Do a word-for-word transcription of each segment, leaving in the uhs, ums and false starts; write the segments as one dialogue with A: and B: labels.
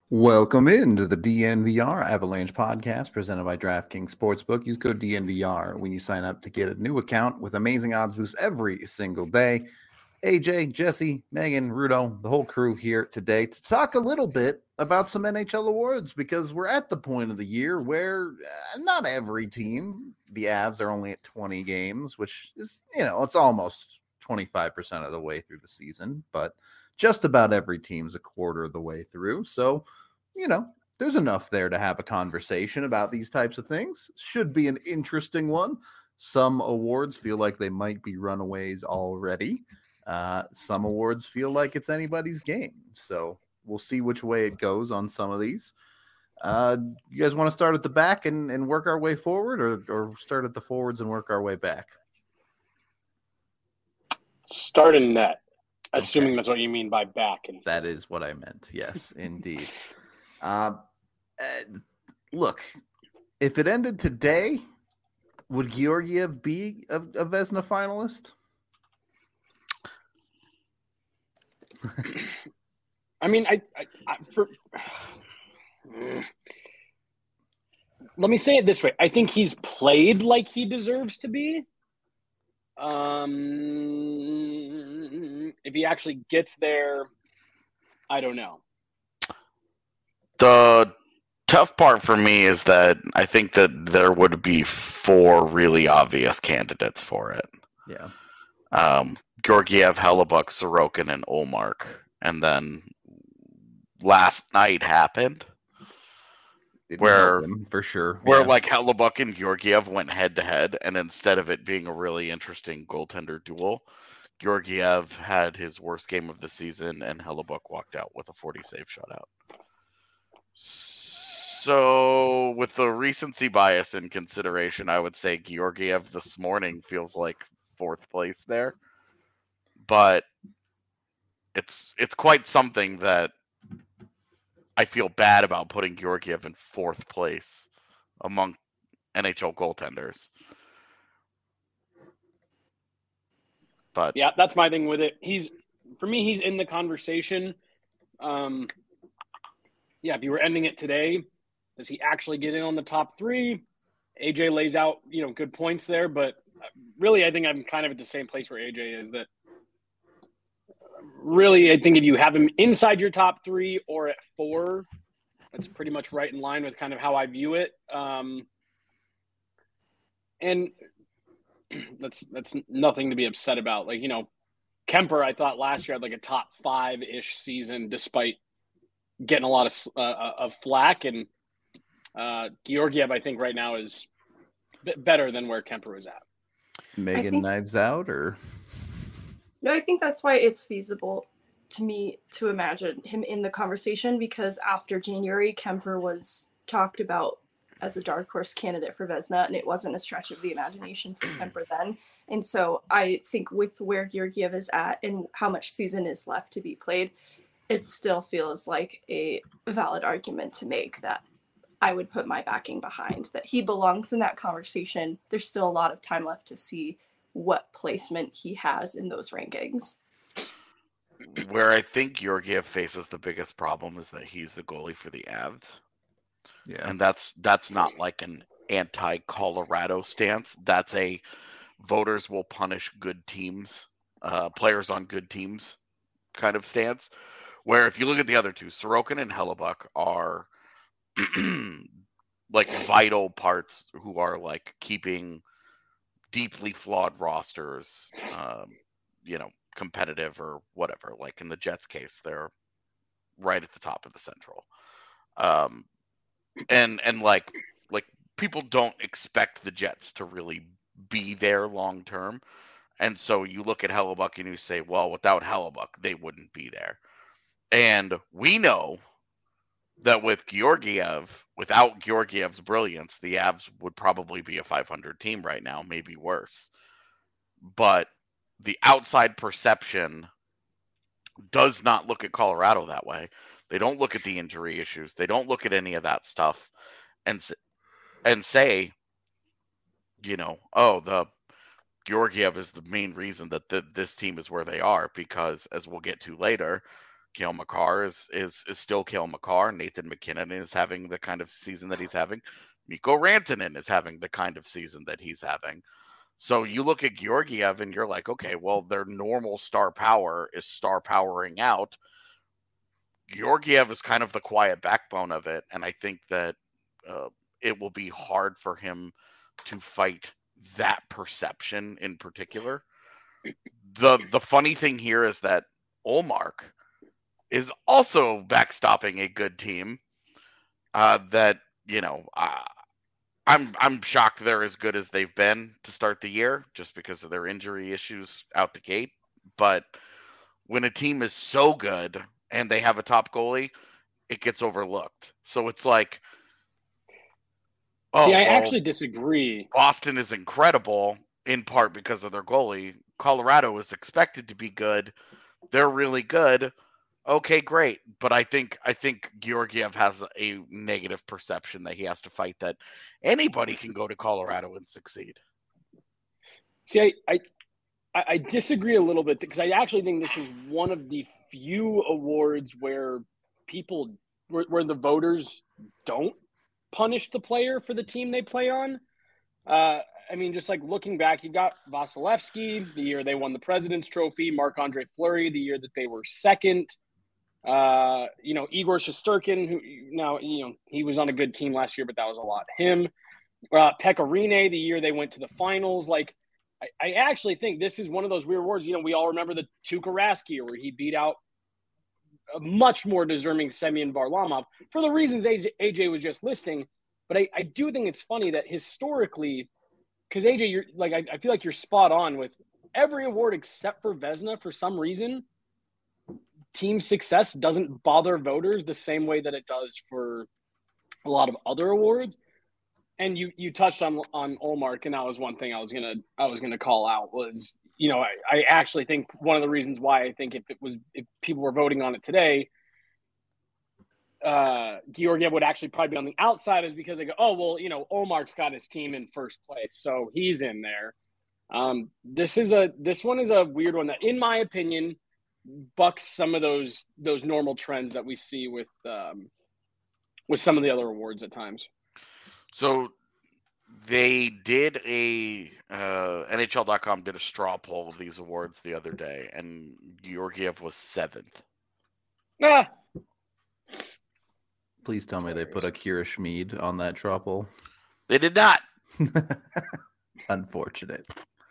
A: Welcome into the D N V R Avalanche podcast presented by DraftKings Sportsbook. Use code D N V R when you sign up to get a new account with amazing odds boosts every single day. A J, Jesse, Megan, Rudo, the whole crew here today to talk a little bit about some N H L awards because we're at the point of the year where uh, not every team, the Avs are only at twenty games, which is, you know, it's almost twenty-five percent of the way through the season, but just about every team's a quarter of the way through. So, you know, there's enough there to have a conversation about these types of things. Should be an interesting one. Some awards feel like they might be runaways already. Uh, some awards feel like it's anybody's game. So we'll see which way it goes on some of these. Uh, you guys want to start at the back and, and work our way forward, or, or start at the forwards and work our way back?
B: Start in net, assuming okay. That's what you mean by back. And
A: that is what I meant. Yes, indeed. uh, uh, look, if it ended today, would Georgiev be a, a Vezina finalist?
B: I mean, I, I, I for, let me say it this way. I think he's played like he deserves to be. Um, if he actually gets there, I don't know.
C: The tough part for me is that I think that there would be four really obvious candidates for it.
A: Yeah.
C: Um, Georgiev, Hellebuyck, Sorokin, and Ullmark. And then last night happened
A: Didn't
C: where
A: him, for sure,
C: where
A: yeah.
C: like Hellebuyck and Georgiev went head to head, and instead of it being a really interesting goaltender duel, Georgiev had his worst game of the season, and Hellebuyck walked out with a forty save shutout. So, with the recency bias in consideration, I would say Georgiev this morning feels like fourth place there, but it's it's quite something that I feel bad about putting Georgiev in fourth place among N H L goaltenders. But
B: yeah, that's my thing with it. He's for me, he's in the conversation. Um, yeah, if you were ending it today, does he actually get in on the top three? A J lays out, you know, good points there, but really, I think I'm kind of at the same place where A J is. That really, I think if you have him inside your top three or at four, that's pretty much right in line with kind of how I view it. Um, and that's that's nothing to be upset about. Like, you know, Kemper, I thought last year had like a top five-ish season despite getting a lot of uh, of flack. And uh, Georgiev, I think right now is a bit better than where Kemper was at.
A: Megan
D: think,
A: knives out, or
D: no? I think that's why it's feasible to me to imagine him in the conversation, because after January, Kemper was talked about as a dark horse candidate for Vezina, and it wasn't a stretch of the imagination for Kemper then. And so I think with where Georgiev is at and how much season is left to be played, it still feels like a valid argument to make that I would put my backing behind, that he belongs in that conversation. There's still a lot of time left to see what placement he has in those rankings.
C: Where I think Georgiev faces the biggest problem is that he's the goalie for the Avs.
A: Yeah.
C: And that's that's not like an anti-Colorado stance. That's a voters will punish good teams, uh, players on good teams kind of stance. Where if you look at the other two, Sorokin and Hellebuyck are like vital parts who are like keeping deeply flawed rosters, um, you know, competitive or whatever. Like in the Jets case, they're right at the top of the Central. Um, and and like like people don't expect the Jets to really be there long term. And so you look at Hellebuyck and you say, well, without Hellebuyck, they wouldn't be there. And we know that with Georgiev, without Georgiev's brilliance, the Avs would probably be a five hundred team right now, maybe worse. But the outside perception does not look at Colorado that way. They don't look at the injury issues. They don't look at any of that stuff and and say, you know, oh, the Georgiev is the main reason that the, this team is where they are, because as we'll get to later, Cale Makar is is is still Cale Makar. Nathan McKinnon is having the kind of season that he's having. Mikko Rantanen is having the kind of season that he's having. So you look at Georgiev and you're like, okay, well, their normal star power is star powering out. Georgiev is kind of the quiet backbone of it, and I think that uh, it will be hard for him to fight that perception in particular. The the funny thing here is that Ullmark is also backstopping a good team uh, that, you know, uh, I'm I'm shocked they're as good as they've been to start the year just because of their injury issues out the gate. But when a team is so good and they have a top goalie, it gets overlooked. So it's like,
B: oh, see, I
C: well,
B: actually disagree.
C: Boston is incredible in part because of their goalie. Colorado is expected to be good. They're really good. Okay, great. But I think I think Georgiev has a negative perception that he has to fight that anybody can go to Colorado and succeed.
B: See, I I, I disagree a little bit because I actually think this is one of the few awards where people where, where the voters don't punish the player for the team they play on. Uh, I mean, just like looking back, you got Vasilevsky the year they won the President's Trophy, Marc-Andre Fleury the year that they were second. Uh, you know, Igor Shesterkin, who now, you know, he was on a good team last year, but that was a lot him. Uh, Pekka Rinne, the year they went to the finals. Like, I, I actually think this is one of those weird awards. You know, we all remember the Tuukka Rask year where he beat out a much more deserving Semyon Varlamov for the reasons A J, A J was just listing. But I, I do think it's funny that historically, because A J, you're like, I, I feel like you're spot on with every award except for Vezina for some reason. Team success doesn't bother voters the same way that it does for a lot of other awards. And you you touched on on Ullmark, and that was one thing I was gonna I was gonna call out was, you know, I, I actually think one of the reasons why I think if it was if people were voting on it today, uh, Georgiev would actually probably be on the outside is because they go, oh well, you know, Ullmark's got his team in first place, so he's in there. Um, this is a this one is a weird one that, in my opinion, bucks some of those those normal trends that we see with um, with some of the other awards at times.
C: So they did a uh, N H L dot com did a straw poll of these awards the other day, and Georgiev was seventh.
B: Ah.
A: Please tell me they put Akira Schmid on that straw poll.
C: They did not.
A: Unfortunate.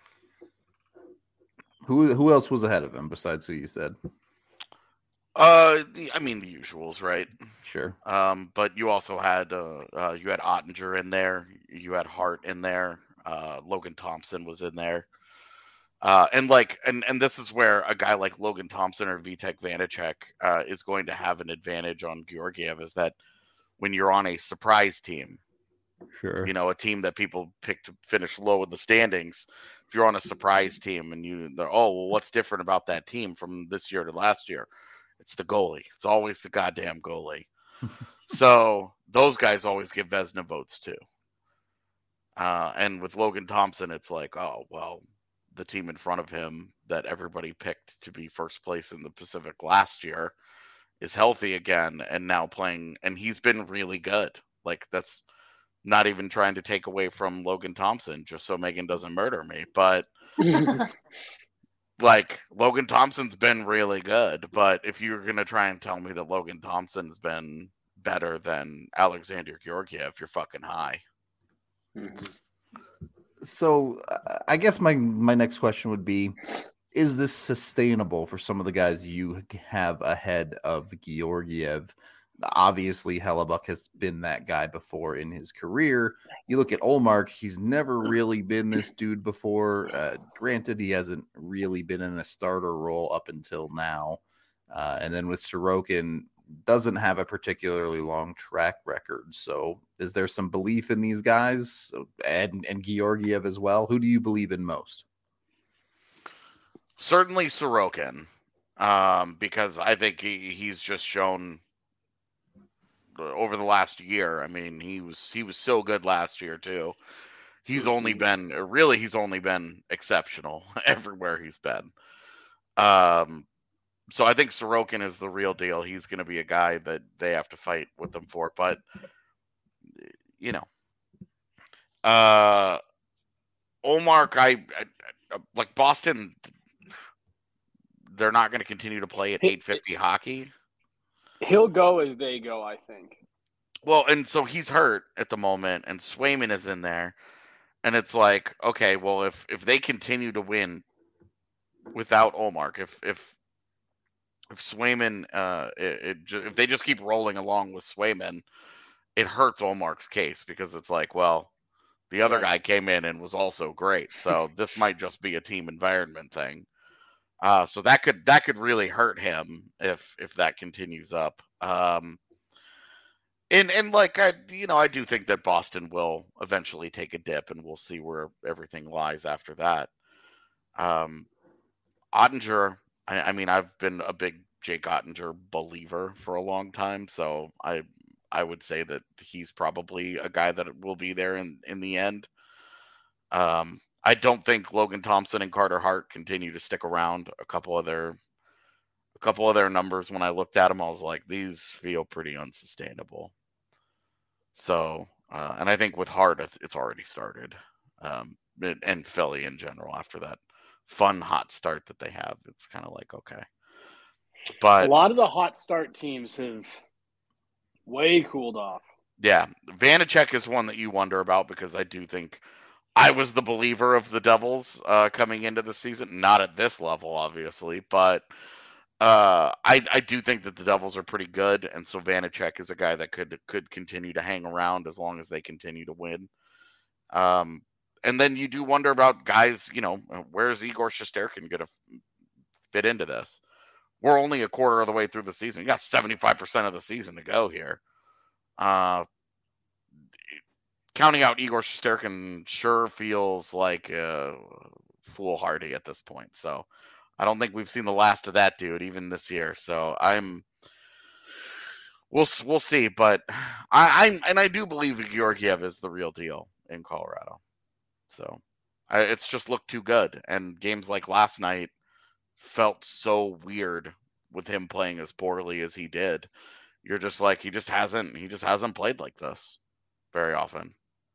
A: Who who else was ahead of him besides who you said?
C: Uh, the, I mean the usuals, right?
A: Sure.
C: Um, but you also had uh, uh, you had Ottinger in there, you had Hart in there, uh, Logan Thompson was in there, uh, and like, and and this is where a guy like Logan Thompson or Vitek Vanacek uh, is going to have an advantage on Georgiev, is that when you're on a surprise team,
A: sure,
C: you know, a team that people pick to finish low in the standings. If you're on a surprise team and you, they're, oh well, what's different about that team from this year to last year? It's the goalie. It's always the goddamn goalie. So those guys always get Vezina votes too. Uh, and with Logan Thompson, it's like, oh, well, the team in front of him that everybody picked to be first place in the Pacific last year is healthy again and now playing. And he's been really good. Like, that's not even trying to take away from Logan Thompson just so Megan doesn't murder me. But like, Logan Thompson's been really good, but if you're going to try and tell me that Logan Thompson's been better than Alexander Georgiev, you're fucking high.
A: So uh, I guess my, my next question would be, is this sustainable for some of the guys you have ahead of Georgiev? Obviously, Hellebuck has been that guy before in his career. You look at Ullmark, he's never really been this dude before. Uh, granted, he hasn't really been in a starter role up until now. Uh, and then with Sorokin, doesn't have a particularly long track record. So is there some belief in these guys? And, and Georgiev as well? Who do you believe in most?
C: Certainly Sorokin, um, because I think he, he's just shown over the last year. I mean, he was he was so good last year too. He's only been really he's only been exceptional everywhere he's been. Um, so I think Sorokin is the real deal. He's going to be a guy that they have to fight with them for. But, you know, uh, Ullmark, I, I, I like Boston. They're not going to continue to play at eight fifty hockey.
B: He'll go as they go, I think.
C: Well, and so he's hurt at the moment, and Swayman is in there. And it's like, okay, well, if, if they continue to win without Ullmark, if if if Swayman, uh, it, it, if they just keep rolling along with Swayman, it hurts Ullmark's case because it's like, well, the other right. guy came in and was also great, so this might just be a team environment thing. Uh, so that could that could really hurt him if if that continues up. Um, and and like I, you know, I do think that Boston will eventually take a dip, and we'll see where everything lies after that. Um, Ottinger, I, I mean, I've been a big Jake Ottinger believer for a long time, so I I would say that he's probably a guy that will be there in in the end. Um. I don't think Logan Thompson and Carter Hart continue to stick around. A couple of their, a couple of their numbers when I looked at them, I was like, these feel pretty unsustainable. So, uh, and I think with Hart, it's already started, um, and Philly in general after that fun hot start that they have, it's kind of like okay. But
B: a lot of the hot start teams have way cooled off.
C: Yeah, Vanacek is one that you wonder about because I do think. I was the believer of the Devils uh, coming into the season, not at this level, obviously, but uh, I, I do think that the Devils are pretty good, and so Vanacek is a guy that could could continue to hang around as long as they continue to win. Um, and then you do wonder about guys, you know, where's Igor Shesterkin going to fit into this? We're only a quarter of the way through the season. You got seventy-five percent of the season to go here. Uh, Counting out Igor Shesterkin sure feels like uh, foolhardy at this point. So I don't think we've seen the last of that dude even this year. So I'm we'll we'll see. But I, I'm and I do believe that Georgiev is the real deal in Colorado. So I, it's just looked too good. And games like last night felt so weird with him playing as poorly as he did. You're just like he just hasn't he just hasn't played like this very often.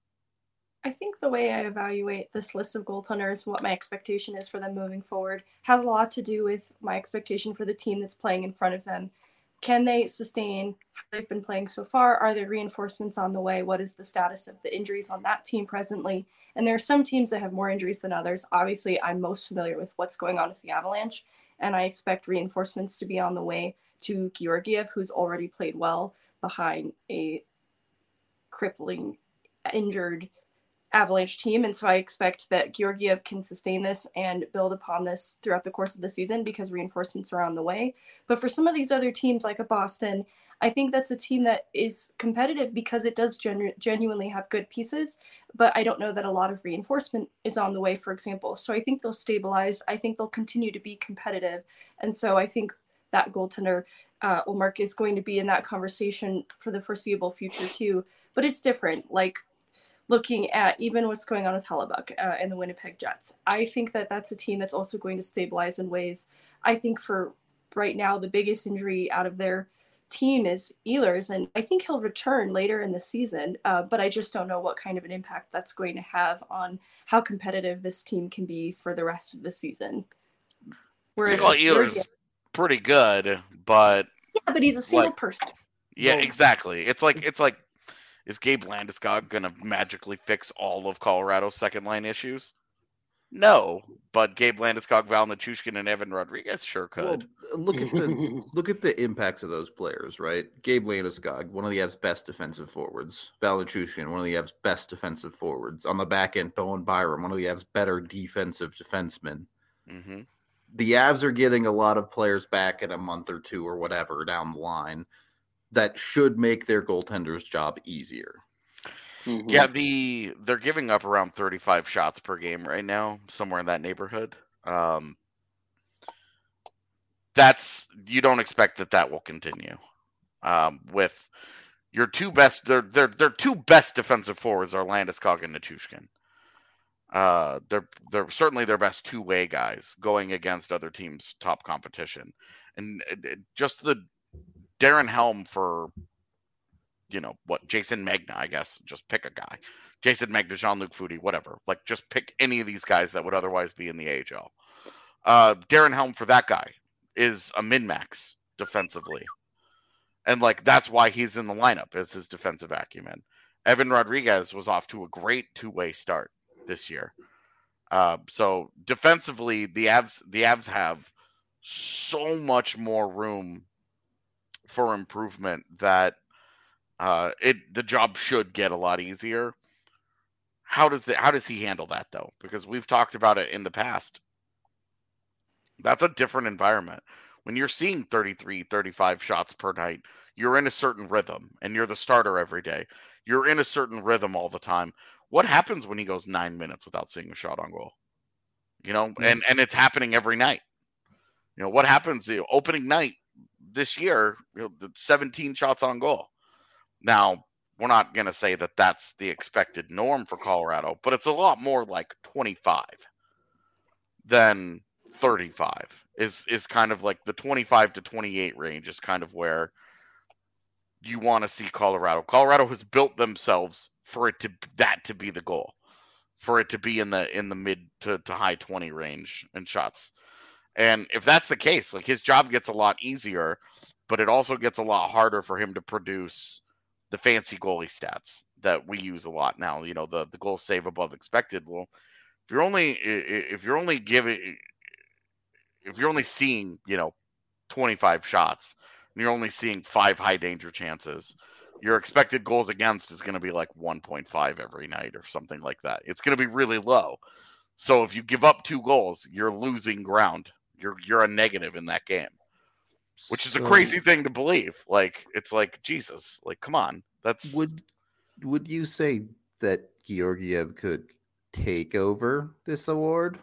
D: I think the way I evaluate this list of goaltenders, what my expectation is for them moving forward, has a lot to do with my expectation for the team that's playing in front of them. Can they sustain how they've been playing so far? Are there reinforcements on the way? What is the status of the injuries on that team presently? And there are some teams that have more injuries than others. Obviously, I'm most familiar with what's going on with the Avalanche, and I expect reinforcements to be on the way to Georgiev, who's already played well behind a crippling, injured Avalanche team. And so I expect that Georgiev can sustain this and build upon this throughout the course of the season because reinforcements are on the way. But for some of these other teams like a Boston, I think that's a team that is competitive because it does genu- genuinely have good pieces, but I don't know that a lot of reinforcement is on the way, for example. So I think they'll stabilize. I think they'll continue to be competitive. And so I think that goaltender, uh, Ullmark, is going to be in that conversation for the foreseeable future too. But it's different. Like, looking at even what's going on with Hellebuck uh, and the Winnipeg Jets, I think that that's a team that's also going to stabilize in ways. I think for right now, the biggest injury out of their team is Ehlers, and I think he'll return later in the season, uh, but I just don't know what kind of an impact that's going to have on how competitive this team can be for the rest of the season. Whereas
C: well, Ehlers is pretty good, but
D: yeah, but he's a single
C: like,
D: person.
C: Yeah, exactly. It's like it's like. Is Gabe Landeskog going to magically fix all of Colorado's second line issues? No, but Gabe Landeskog, Val Nichushkin, and Evan Rodriguez sure could.
A: Well, look at the look at the impacts of those players, right? Gabe Landeskog, one of the Avs' best defensive forwards. Val Nichushkin, one of the Avs' best defensive forwards. On the back end, Bowen Byram, one of the Avs' better defensive defensemen.
C: Mm-hmm.
A: The Avs are getting a lot of players back in a month or two or whatever down the line that should make their goaltender's job easier.
C: Mm-hmm. Yeah, the they're giving up around thirty-five shots per game right now, somewhere in that neighborhood. Um, that's you don't expect that that will continue. Um, with your two best, their their their two best defensive forwards are Landeskog and Nichushkin. Uh, they're they're certainly their best two-way guys going against other teams' top competition, And just the Darren Helm for, you know, what, Jason Magna, I guess. Just pick a guy. Jason Magna, Jean-Luc Foudy, whatever. Like, just pick any of these guys that would otherwise be in the A H L. Uh, Darren Helm for that guy is a min-max defensively. And, like, that's why he's in the lineup, is his defensive acumen. Evan Rodriguez was off to a great two-way start this year. Uh, so, defensively, the Avs, the Avs have so much more room for improvement that uh, it the job should get a lot easier. How does the, how does he handle that, though? Because we've talked about it in the past. That's a different environment. When you're seeing thirty-three, thirty-five shots per night, you're in a certain rhythm, and you're the starter every day. You're in a certain rhythm all the time. What happens when he goes nine minutes without seeing a shot on goal? You know, mm-hmm. and, and it's happening every night. You know, what happens, you know, opening night this year, you know, the seventeen shots on goal. Now, we're not going to say that that's the expected norm for Colorado, but it's a lot more like twenty-five than thirty-five is, is kind of like the twenty-five to twenty-eight range is kind of where you want to see Colorado. Colorado has built themselves for it to, that to be the goal, for it to be in the, in the mid to, to high twenty range in shots. And if that's the case, like, his job gets a lot easier, but it also gets a lot harder for him to produce the fancy goalie stats that we use a lot now. You know, the, the goal save above expected. Well, if you're only, if you're only giving, if you're only seeing, you know, twenty-five shots and you're only seeing five high danger chances, your expected goals against is going to be like one point five every night or something like that. It's going to be really low. So if you give up two goals, you're losing ground. You're, you're a negative in that game. Which is so, a crazy thing to believe. Like, it's like, Jesus, like, come on. That's
A: would would you say that Georgiev could take over this award?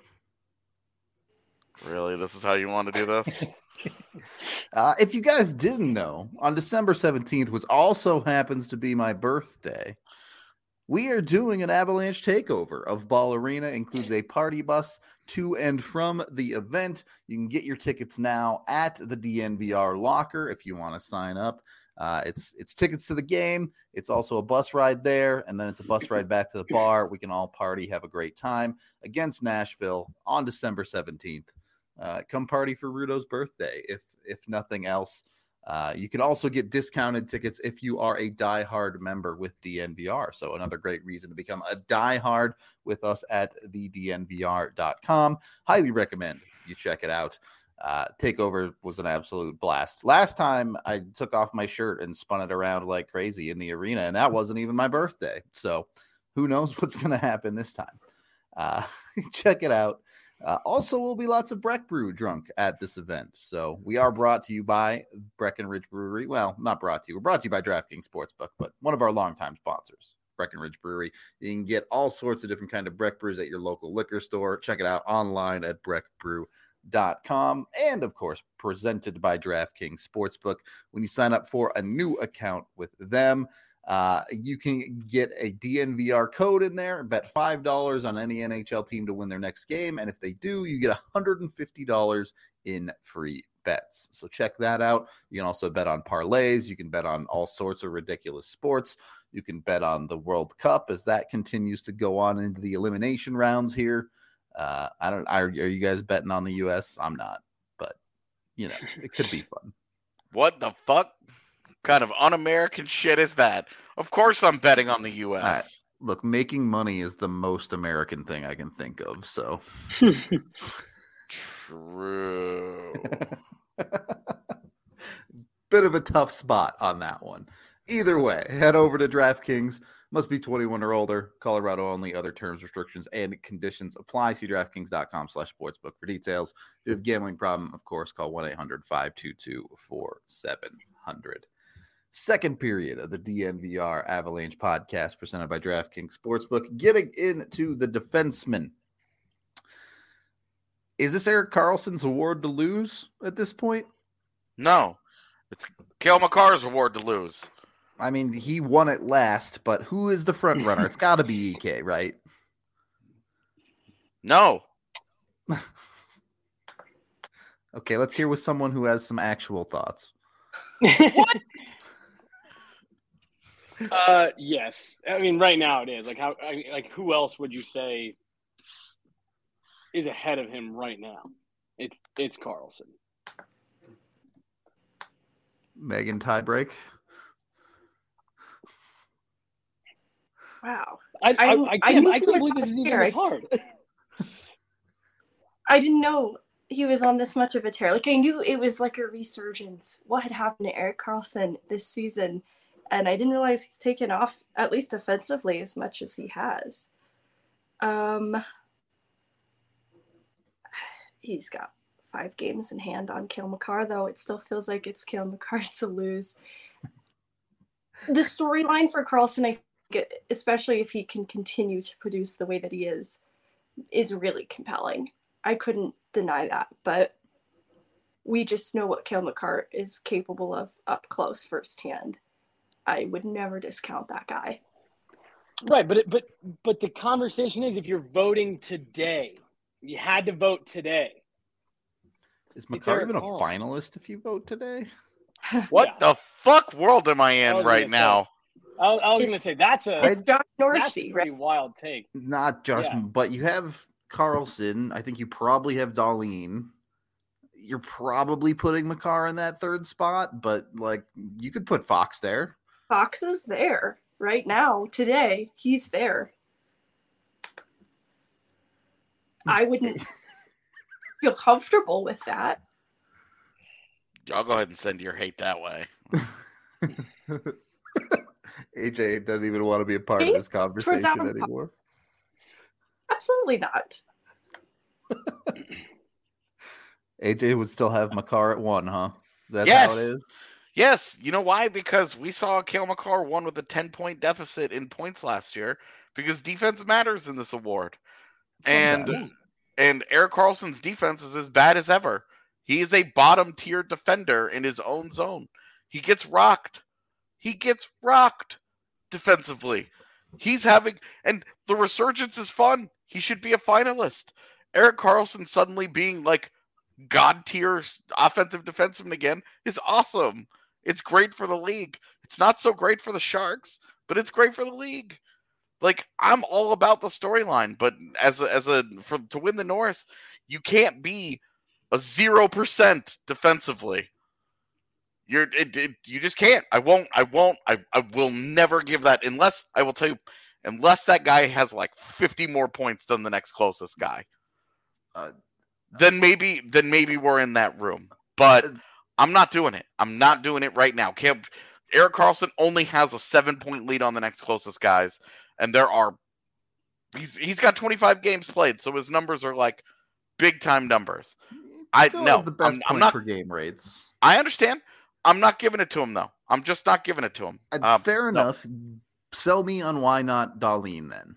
C: Really? This is how you want to do this?
A: uh, if you guys didn't know, on December seventeenth, which also happens to be my birthday, we are doing an Avalanche takeover of Ball Arena. Includes a party bus to and from the event. You can get your tickets now at the D N V R locker if you want to sign up. Uh, it's it's tickets to the game. It's also a bus ride there, and then it's a bus ride back to the bar. We can all party, have a great time against Nashville on December seventeenth. Uh, come party for Rudo's birthday, if if nothing else. Uh, you can also get discounted tickets if you are a diehard member with D N V R. So another great reason to become a diehard with us at the D N V R dot com. Highly recommend you check it out. Uh, Takeover was an absolute blast. Last time I took off my shirt and spun it around like crazy in the arena, and that wasn't even my birthday. So who knows what's going to happen this time. Uh, check it out. Uh, also, will be lots of Breck Brew drunk at this event. So we are brought to you by Breckenridge Brewery. Well, not brought to you. We're brought to you by DraftKings Sportsbook, but one of our longtime sponsors, Breckenridge Brewery. You can get all sorts of different kind of Breck Brews at your local liquor store. Check it out online at breck brew dot com. And, of course, presented by DraftKings Sportsbook. When you sign up for a new account with them, Uh, you can get a D N V R code in there, bet five dollars on any N H L team to win their next game. And if they do, you get one hundred fifty dollars in free bets. So check that out. You can also bet on parlays. You can bet on all sorts of ridiculous sports. You can bet on the World Cup as that continues to go on into the elimination rounds here. Uh, I don't, are, are you guys betting on the U S? I'm not, but you know, it could be fun.
C: What the fuck? Kind of un-American shit is that? Of course I'm betting on the U S.
A: Uh, look, making money is the most American thing I can think of, so.
C: True.
A: Bit of a tough spot on that one. Either way, head over to DraftKings. Must be twenty-one or older. Colorado only. Other terms, restrictions, and conditions apply. See DraftKings dot com slash sportsbook for details. If you have a gambling problem, of course, call one eight hundred five two two four seven zero zero. Second period of the D N V R Avalanche podcast presented by DraftKings Sportsbook. Getting into the defenseman. Is this Erik Karlsson's award to lose at this point?
C: No. It's Cale Makar's award to lose.
A: I mean, he won it last, but who is the front runner? It's got to be E K, right?
C: No.
A: Okay, let's hear with someone who has some actual thoughts.
B: What? uh, yes. I mean, right now it is. Like, how? I, like, who else would you say is ahead of him right now? It's it's Carlson.
A: Megan tiebreak.
D: Wow.
B: I I, I,
D: I
B: can't,
D: knew
B: I
D: he
B: can't
D: was
B: believe
D: on
B: this is even
D: there.
B: this hard.
D: I didn't know he was on this much of a tear. Like, I knew it was like a resurgence. What had happened to Erik Karlsson this season? And I didn't realize he's taken off, at least offensively, as much as he has. Um, he's got five games in hand on Cale Makar, though it still feels like it's Cale Makar's to lose. The storyline for Karlsson, I think, especially if he can continue to produce the way that he is, is really compelling. I couldn't deny that, but we just know what Cale Makar is capable of up close firsthand. I would never discount that guy.
B: Right, but it, but but the conversation is, if you're voting today, you had to vote today.
A: Is Makar
B: Erik
A: even a
B: Karlsson.
A: finalist if you vote today?
C: What
B: Yeah.
C: the fuck world am I
B: I
C: in
B: was
C: right
B: gonna say,
C: now?
B: I, was- I was going to say that's a
D: It's Josh
B: that's a
D: Norsey,
B: pretty
D: right?
B: wild take.
A: Not Josh,
B: Yeah.
A: but you have Carlson. I think you probably have Darlene. You're probably putting Makar in that third spot, but like you could put Fox there.
D: Fox is there right now, today. He's there. I wouldn't feel comfortable with that.
C: I'll go ahead and send your hate that way.
A: A J doesn't even want to be a part of
D: Hate
A: this conversation
D: Adam-
A: anymore.
D: Absolutely not.
A: A J would still have Makar at one, huh? Is that
C: Yes.
A: how it is?
C: Yes, you know why? Because we saw Cale Makar won with a ten-point deficit in points last year because defense matters in this award. And
A: Sometimes.
C: and Erik Karlsson's defense is as bad as ever. He is a bottom-tier defender in his own zone. He gets rocked. He gets rocked defensively. He's having and the resurgence is fun. He should be a finalist. Erik Karlsson suddenly being like god tier offensive defenseman again is awesome. It's great for the league. It's not so great for the Sharks, but it's great for the league. Like, I'm all about the storyline, but as a, as a for to win the Norris, you can't be a zero percent defensively. You're it, it, you just can't. I won't. I won't. I, I will never give that unless I will tell you, unless that guy has like fifty more points than the next closest guy.
A: Uh,
C: then maybe then maybe we're in that room. But
A: Uh,
C: I'm not doing it. I'm not doing it right now. Cam, Erik Karlsson only has a seven point lead on the next closest guys, and there are he's he's got twenty-five games played, so his numbers are like big time numbers. I
A: Still
C: no,
A: has the best
C: I'm,
A: point
C: I'm not.
A: per game rates.
C: I understand. I'm not giving it to him though. I'm just not giving it to him.
A: Uh,
C: Um,
A: Fair
C: no.
A: enough. Sell me on why not Darlene then.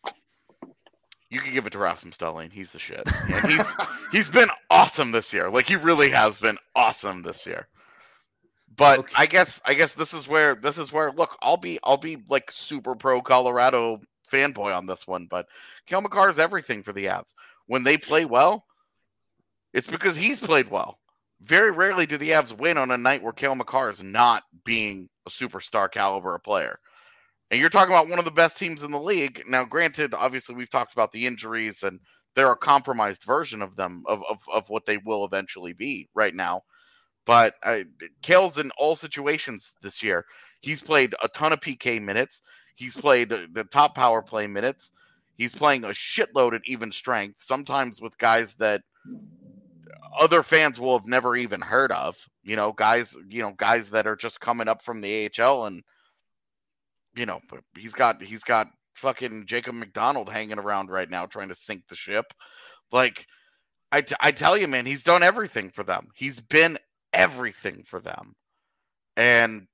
C: You can give it to Rasmus Dahlin. He's the shit. And he's he's been awesome this year. Like he really has been awesome this year. But
A: Okay.
C: I guess I guess this is where this is where look, I'll be I'll be like super pro Colorado fanboy on this one, but Cale Makar is everything for the Avs. When they play well, it's because he's played well. Very rarely do the Avs win on a night where Cale Makar is not being a superstar caliber player. And you're talking about one of the best teams in the league. Now, granted, obviously we've talked about the injuries and they're a compromised version of them, of, of, of what they will eventually be right now. But uh, Cale's in all situations this year. He's played a ton of P K minutes. He's played the top power play minutes. He's playing a shitload at even strength, sometimes with guys that other fans will have never even heard of. You know, guys, you know, guys that are just coming up from the A H L, and you know, but he's got he's got fucking Jacob McDonald hanging around right now trying to sink the ship. Like, I, t- I tell you, man, he's done everything for them. He's been everything for them. And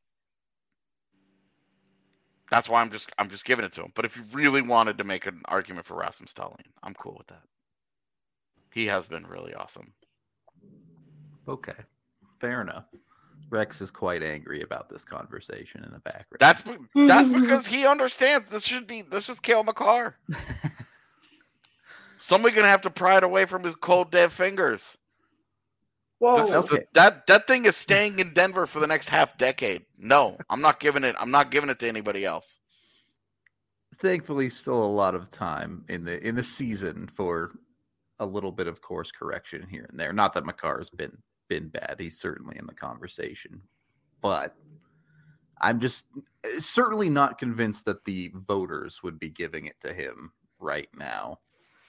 C: that's why I'm just I'm just giving it to him. But if you really wanted to make an argument for Rasmus Dahlin, I'm cool with that. He has been really awesome.
A: Okay. Fair enough. Rex is quite angry about this conversation in the background.
C: That's that's because he understands this should be this is Cale Makar. Somebody's gonna have to pry it away from his cold dead fingers.
D: Whoa.
C: This is
A: Okay.
C: the, that that thing is staying in Denver for the next half decade. No, I'm not giving it. I'm not giving it to anybody else.
A: Thankfully, still a lot of time in the in the season for a little bit of course correction here and there. Not that Makar's been been bad; he's certainly in the conversation, but I'm just certainly not convinced that the voters would be giving it to him right now.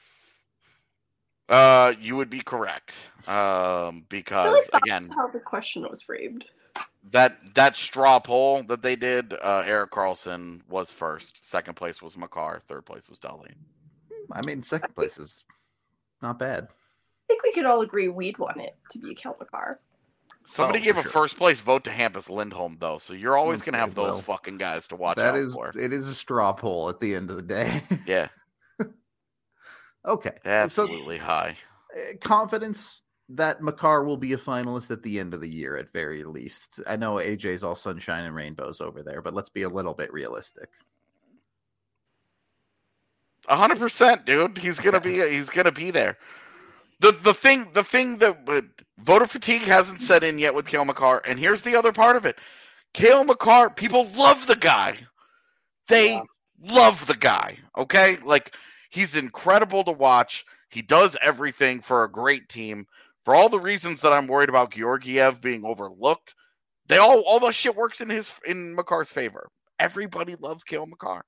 C: Uh, you would be correct. Um,
D: I feel
C: because
D: like that's
C: again,
D: how the question was framed.
C: that that straw poll that they did, uh, Erik Karlsson was first. Second place was Makar. Third place was Dahlin.
A: I mean, second place is not bad.
D: I think we could all agree we'd want it to be Cale Makar.
C: Somebody
A: Oh,
C: gave
A: for
C: a
A: sure.
C: first place vote to Hampus Lindholm, though, so you're always going to
A: Okay,
C: have those
A: well,
C: fucking guys to watch
A: That
C: out
A: is,
C: for.
A: it is a straw poll at the end of the day.
C: Yeah,
A: Okay.
C: absolutely high.
A: So, uh, confidence that Makar will be a finalist at the end of the year at very least. I know A J's all sunshine and rainbows over there, but let's be a little bit realistic.
C: A hundred percent, dude. He's gonna
A: Okay.
C: be. He's gonna be there. The the thing the thing that uh, voter fatigue hasn't set in yet with Cale Makar, and here's the other part of it. Cale Makar, people love the guy. They
B: Yeah.
C: love the guy. Okay, like he's incredible to watch. He does everything for a great team. For all the reasons that I'm worried about Georgiev being overlooked, they all all the shit works in his in Makar's favor. Everybody loves Cale Makar.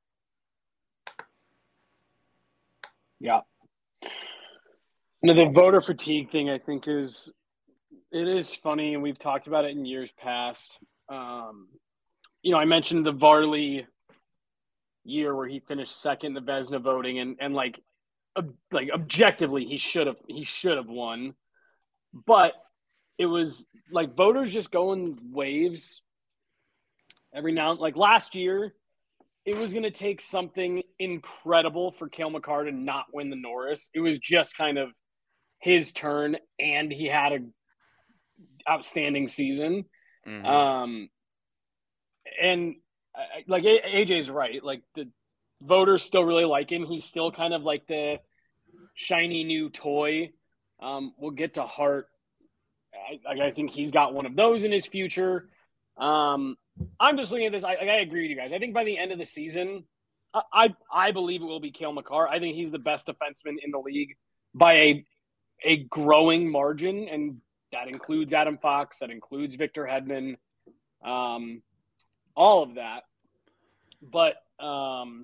B: Yeah. No, the voter fatigue thing, I think, is it is funny, and we've talked about it in years past. Um, you know, I mentioned the Varley year where he finished second in the Vezina voting, and and like, ob- like objectively, he should have he should have won, but it was like voters just go in waves every now. Like last year, it was going to take something incredible for Cale Makar to not win the Norris. It was just kind of his turn, and he had a outstanding season.
C: Mhm.
B: Um, and I- like A- AJ's right. Like the voters still really like him. He's still kind of like the shiny new toy. Um, we'll get to Hart. I, I think he's got one of those in his future. Um, I'm just looking at this. I, I agree with you guys. I think by the end of the season, I I, I believe it will be Cale Makar. I think he's the best defenseman in the league by a a growing margin, and that includes Adam Fox, that includes Victor Hedman, um, all of that. But um,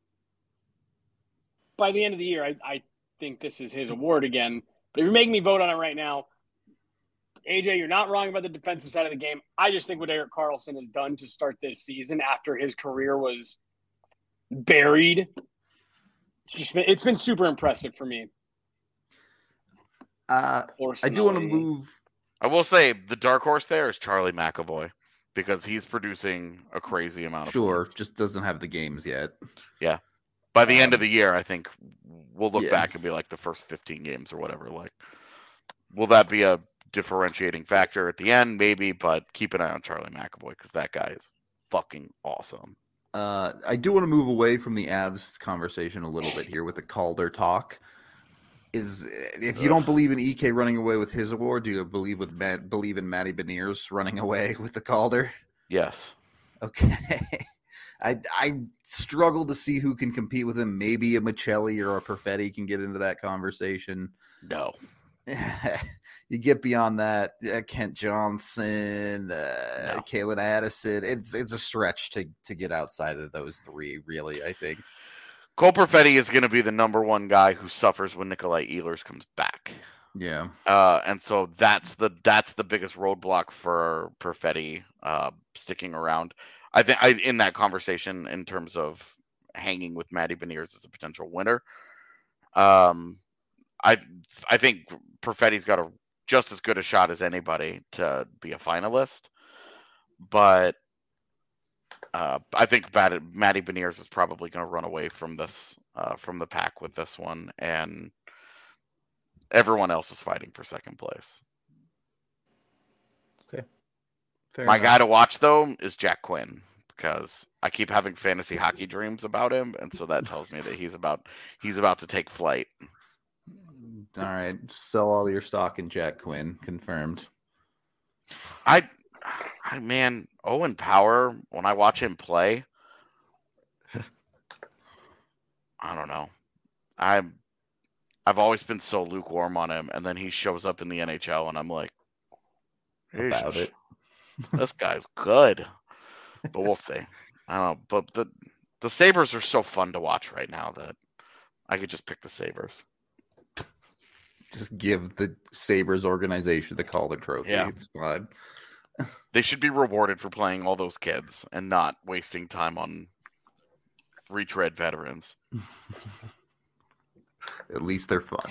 B: by the end of the year, I, I think this is his award again. But if you're making me vote on it right now, A J, you're not wrong about the defensive side of the game. I just think what Erik Karlsson has done to start this season after his career was buried, it's just been, it's been super impressive for me.
A: Uh, I do want to
B: Personally.
A: move.
C: I will say the dark horse there is Charlie McAvoy because he's producing a crazy amount of
A: Sure,
C: points.
A: just doesn't have the games yet.
C: By the end
A: um,
C: of the year, I think we'll look
A: yeah.
C: back and be like the first fifteen games or whatever. Like, will that be a differentiating factor at the end? Maybe, but keep an eye on Charlie McAvoy because that guy is fucking awesome.
A: Uh, I do want to move away from the Avs conversation a little bit here with the Calder talk. Is if you
C: Ugh.
A: don't believe in E K running away with his award, do you believe with Matt, believe in Matty Beniers running away with the Calder?
C: Yes.
A: Okay, I I struggle to see who can compete with him. Maybe a Michelli or a Perfetti can get into that conversation.
C: No.
A: You get beyond that, uh, Kent Johnson, uh,
C: No.
A: Kalen Addison. It's it's a stretch to to get outside of those three. Really, I think.
C: Cole Perfetti is going to be the number one guy who suffers when Nikolai Ehlers comes back.
A: Yeah.
C: Uh, and so that's the that's the biggest roadblock for Perfetti uh, sticking around. I think I in that conversation in terms of hanging with Matty Beniers as a potential winner. Um, I I think Perfetti's got a just as good a shot as anybody to be a finalist, but uh, I think Matty, Matty Beniers is probably going to run away from this uh, from the pack with this one, and everyone else is fighting for second place.
A: Fair
C: My
A: enough.
C: guy to watch though is Jack Quinn because I keep having fantasy hockey dreams about him, and so that tells me that he's about he's about to take flight.
A: All right. Sell all your stock in Jack Quinn. Confirmed.
C: I, I man, Owen Power, when I watch him play, I don't know. I'm, I've always been so lukewarm on him, and then he shows up in the N H L, and I'm like,
A: About it.
C: This guy's good. But we'll see. I don't know. But the the Sabres are so fun to watch right now that I could just pick the Sabres.
A: Just give the Sabres organization the Calder Trophy.
C: Yeah.
A: It's fine.
C: They should be rewarded for playing all those kids and not wasting time on retread veterans.
A: At least they're fun.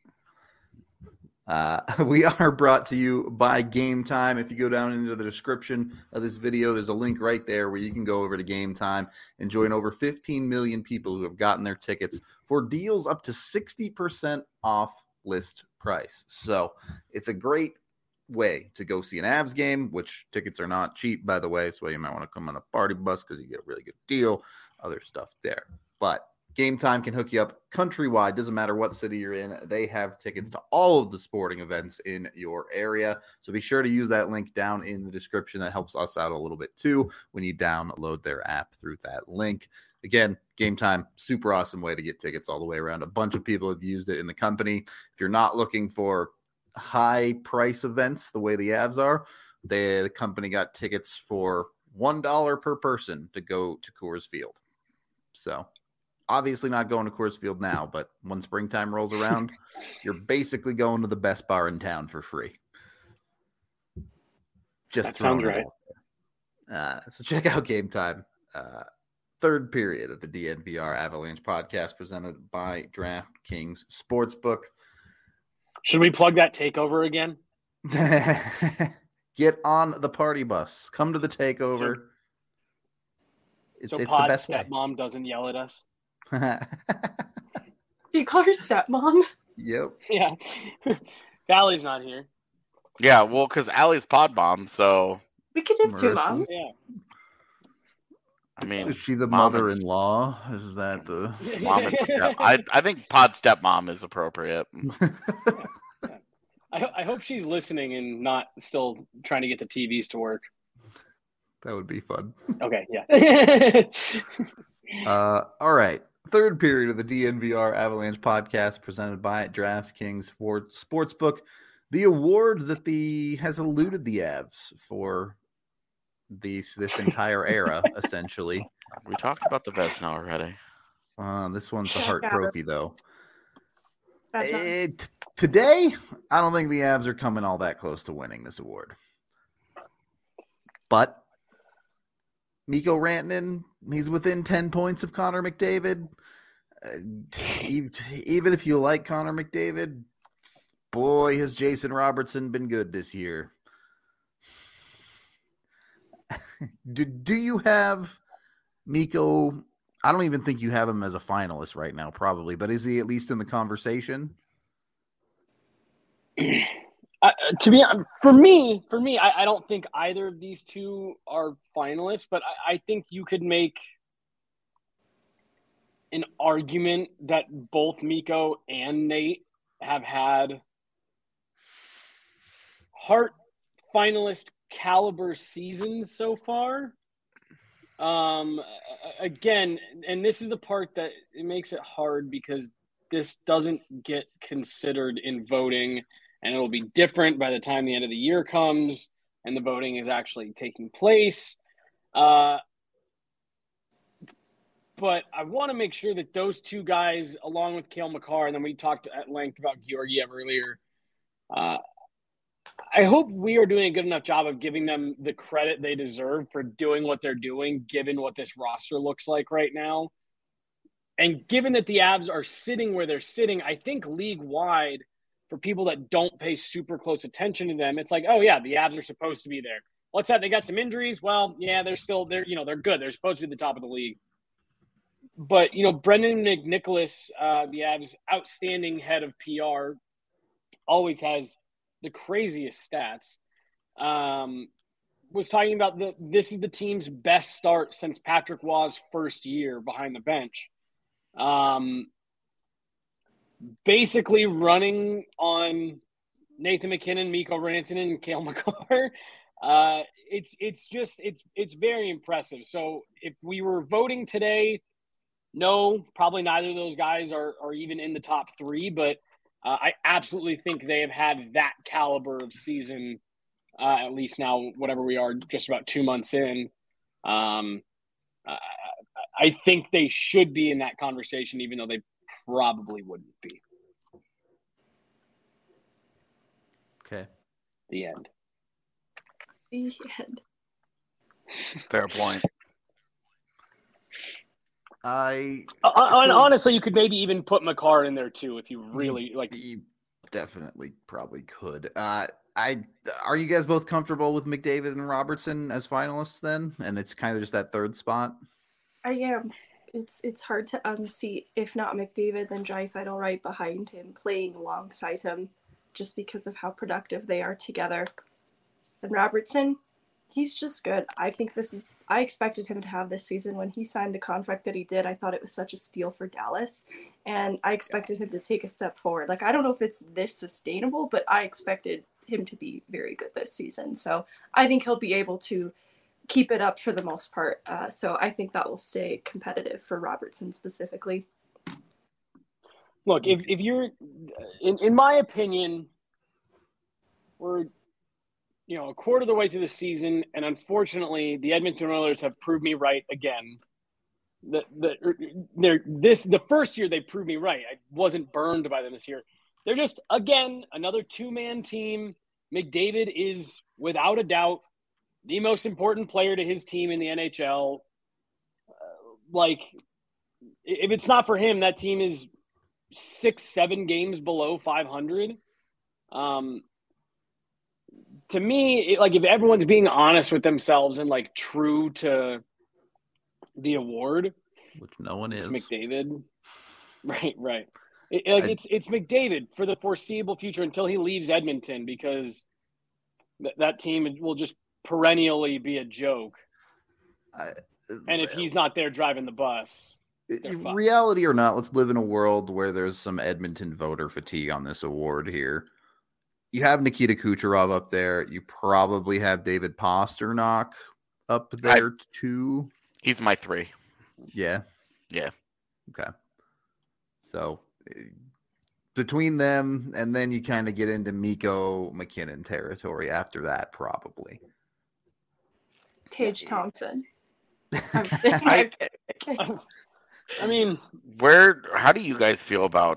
A: Uh, we are brought to you by Game Time. If you go down into the description of this video, there's a link right there where you can go over to Game Time and join over fifteen million people who have gotten their tickets for deals up to sixty percent off list price. So it's a great way to go see an Avs game, which tickets are not cheap, by the way. So you might want to come on a party bus because you get a really good deal. Other stuff there. But Game Time can hook you up countrywide. Doesn't matter what city you're in. They have tickets to all of the sporting events in your area. So be sure to use that link down in the description. That helps us out a little bit too when you download their app through that link. Again, Game Time, super awesome way to get tickets all the way around. A bunch of people have used it in the company. If you're not looking for high price events the way the Avs are, they, the company got tickets for one dollar per person to go to Coors Field. So obviously not going to Coors Field now, but when springtime rolls around, you're basically going to the best bar in town for free. Just
B: that sounds right.
A: Uh, so check out Game Time. Uh, third period of the D N V R Avalanche podcast presented by DraftKings Sportsbook.
B: Should we plug that takeover again?
A: Get on the party bus. Come to the takeover.
B: So,
A: it's
B: so
A: it's
B: Pod's
A: the best way.
B: stepmom doesn't yell at us.
D: Do you call her stepmom?
A: Yep.
B: Yeah. Valley's not here.
C: Yeah, well, because Allie's pod mom, so
D: We could have two
A: Marissa.
D: moms.
B: Yeah.
C: I mean,
A: Is she the
C: mom and-
A: mother-in-law? Is that the
C: mom and step. I I think pod stepmom is appropriate.
B: I, ho- I hope she's listening and not still trying to get the T Vs to work.
A: That would be fun.
B: Okay, yeah.
A: Uh, all right. Third period of the D N V R Avalanche podcast presented by DraftKings for Sportsbook. The award that the has eluded the Avs for these this entire era, essentially.
C: We talked about the Vezina already.
A: Uh, this one's the Hart
D: Yeah.
A: Trophy, though.
D: That's not-
A: It, today, I don't think the Avs are coming all that close to winning this award. But Mikko Rantanen, he's within ten points of Connor McDavid. Uh, e- even if you like Connor McDavid, boy, has Jason Robertson been good this year. do, do you have Mikko? I don't even think you have him as a finalist right now, probably, but is he at least in the conversation?
B: Uh, to be for me, for me, I, I don't think either of these two are finalists, but I, I think you could make an argument that both Mikko and Nate have had Hart finalist caliber seasons so far. Um, again, and this is the part that it makes it hard because this doesn't get considered in voting. And it'll be different by the time the end of the year comes and the voting is actually taking place. Uh, but I want to make sure that those two guys, along with Cale Makar, and then we talked at length about Georgiev earlier, uh, I hope we are doing a good enough job of giving them the credit they deserve for doing what they're doing, given what this roster looks like right now. And given that the Avs are sitting where they're sitting, I think league-wide – for people that don't pay super close attention to them, it's like, oh yeah, the Avs are supposed to be there. What's that? They got some injuries. Well, yeah, they're still they're you know they're good. They're supposed to be the top of the league. But you know, Brendan McNicholas, uh, the Avs' outstanding head of P R, always has the craziest stats. Um, was talking about the this is the team's best start since Patrick Waugh's first year behind the bench. Um, basically running on Nathan MacKinnon, Mikko Rantanen, and Cale Makar. Uh, it's it's just it's it's very impressive. So if we were voting today, no, probably neither of those guys are are even in the top three. But uh, I absolutely think they have had that caliber of season. Uh, at least now, whatever we are, just about two months in. Um, I, I think they should be in that conversation, even though they probably wouldn't be.
A: Okay.
B: The end.
D: The end.
C: Fair point.
A: I
B: Uh, and
A: so-
B: honestly, you could maybe even put Makar in there too if you really like.
A: You definitely probably could. Uh, I are you guys both comfortable with McDavid and Robertson as finalists then? And it's kind of just that third spot.
D: I am. It's it's hard to unseat, if not McDavid, then Draisaitl right behind him, playing alongside him, just because of how productive they are together. And Robertson, he's just good. I think this is. I expected him to have this season when he signed the contract that he did. I thought it was such a steal for Dallas, and I expected him to take a step forward. Like I don't know if it's this sustainable, but I expected him to be very good this season. So I think he'll be able to keep it up for the most part. Uh, so I think that will stay competitive for Robertson specifically.
B: Look, if if you're, in in my opinion, we're, you know, a quarter of the way through the season, and unfortunately, the Edmonton Oilers have proved me right again. The the they're this the first year they proved me right. I wasn't burned by them this year. They're just, again, another two-man team. McDavid is, without a doubt, the most important player to his team in the N H L. Uh, like, if it's not for him, that team is six, seven games below five hundred. Um, to me, it, like, if everyone's being honest with themselves and, like, true to the award,
A: Which no one
B: it's
A: is.
B: McDavid. Right, right. It, like
A: I-
B: it's it's McDavid for the foreseeable future until he leaves Edmonton, because th- that team will just perennially be a joke.
A: I,
B: And if he's not there driving the bus, they're fucked.
A: reality or not, let's live in a world where there's some Edmonton voter fatigue on this award here. You have Nikita Kucherov up there. You probably have David Pastrnak up there too.
C: He's my three.
A: Yeah.
C: Yeah.
A: Okay. So eh, between them, and then you kind of get into Mikko McKinnon territory after that, probably.
D: Tage Thompson. I'm
C: I-
D: kidding, I'm kidding, I'm kidding.
B: I mean,
C: Where? How do you guys feel about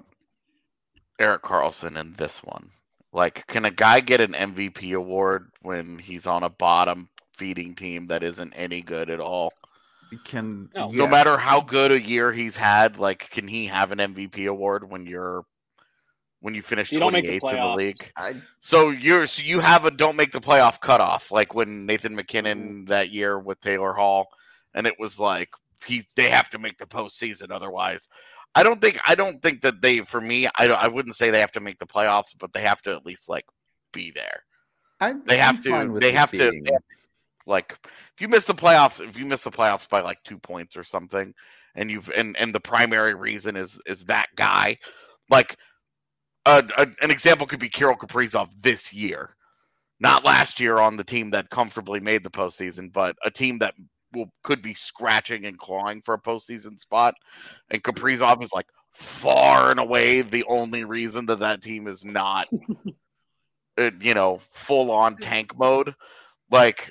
C: Erik Karlsson in this one? Like, can a guy get an M V P award when he's on a bottom feeding team that isn't any good at all?
A: You can
B: No.
C: No
A: yes.
C: matter how good a year he's had, like, can he have an M V P award when you're when you finish
B: You don't make the
C: twenty-eighth in the
B: playoffs.
C: league?
A: I,
C: So you're so you have a don't make the playoff cutoff, like when Nathan McKinnon
B: Mm-hmm.
C: that year with Taylor Hall, and it was like he they have to make the postseason otherwise. I don't think I don't think that they for me I don't, I wouldn't say they have to make the playoffs, but they have to at least like be there.
A: I
C: They have
A: I'm
C: to-
A: fine with
C: they
A: it
C: have to-
A: being-
C: Like if you miss the playoffs, if you miss the playoffs by like two points or something, and you've and and the primary reason is is that guy, like a, a, an example could be Kirill Kaprizov this year, not last year on the team that comfortably made the postseason, but a team that will could be scratching and clawing for a postseason spot, and Kaprizov is like far and away the only reason that that team is not, uh, you know, full on tank mode, like.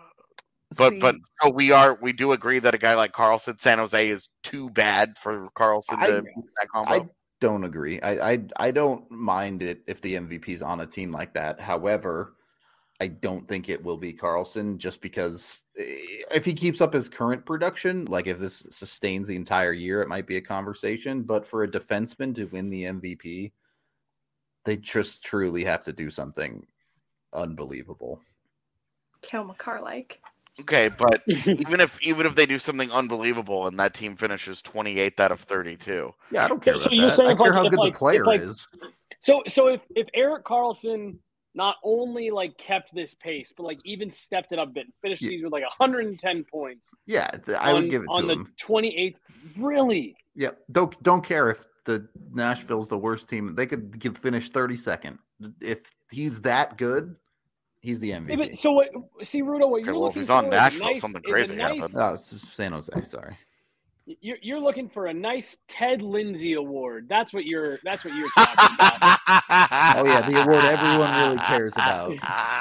C: But
A: See,
C: but so we are we do agree that a guy like Carlson, San Jose is too bad for Carlson
A: I-
C: to make that combo.
A: I don't agree. I, I I don't mind it if the M V P is on a team like that. However, I don't think it will be Carlson, just because eh, if he keeps up his current production, like if this sustains the entire year, it might be a conversation. But for a defenseman to win the M V P, they just truly have to do something unbelievable.
D: Cale Makar like.
C: Okay, but even if even if they do something unbelievable and that team finishes twenty-eighth out of thirty-two,
A: Yeah, I don't care
B: So
A: about
B: you're
A: that.
B: saying
A: I
B: if,
A: care
B: like-
A: how
B: if,
A: good
B: like-
A: the player
B: if, like-
A: is.
B: so so if if Erik Karlsson not only like kept this pace, but like even stepped it up a bit, finished the
A: Yeah.
B: season with like one hundred ten points
A: Yeah, th- I
B: on,
A: would give it
B: on
A: to
B: the
A: him.
B: twenty-eighth. Really?
A: Yeah, don't don't care if the Nashville's the worst team. They could get, finish thirty-second. If he's that good, he's the M V P.
B: So what? See, Rudo, what
C: Okay,
B: you're
C: well, if
B: looking
C: he's on
B: for
C: Nashville,
B: is a nice,
C: something
B: is a
C: crazy
B: nice,
C: happened.
A: No, it's just San Jose. Sorry.
B: You're you're looking for a nice Ted Lindsay award. That's what you're. That's what you're talking about.
A: Oh yeah, the award everyone really cares about.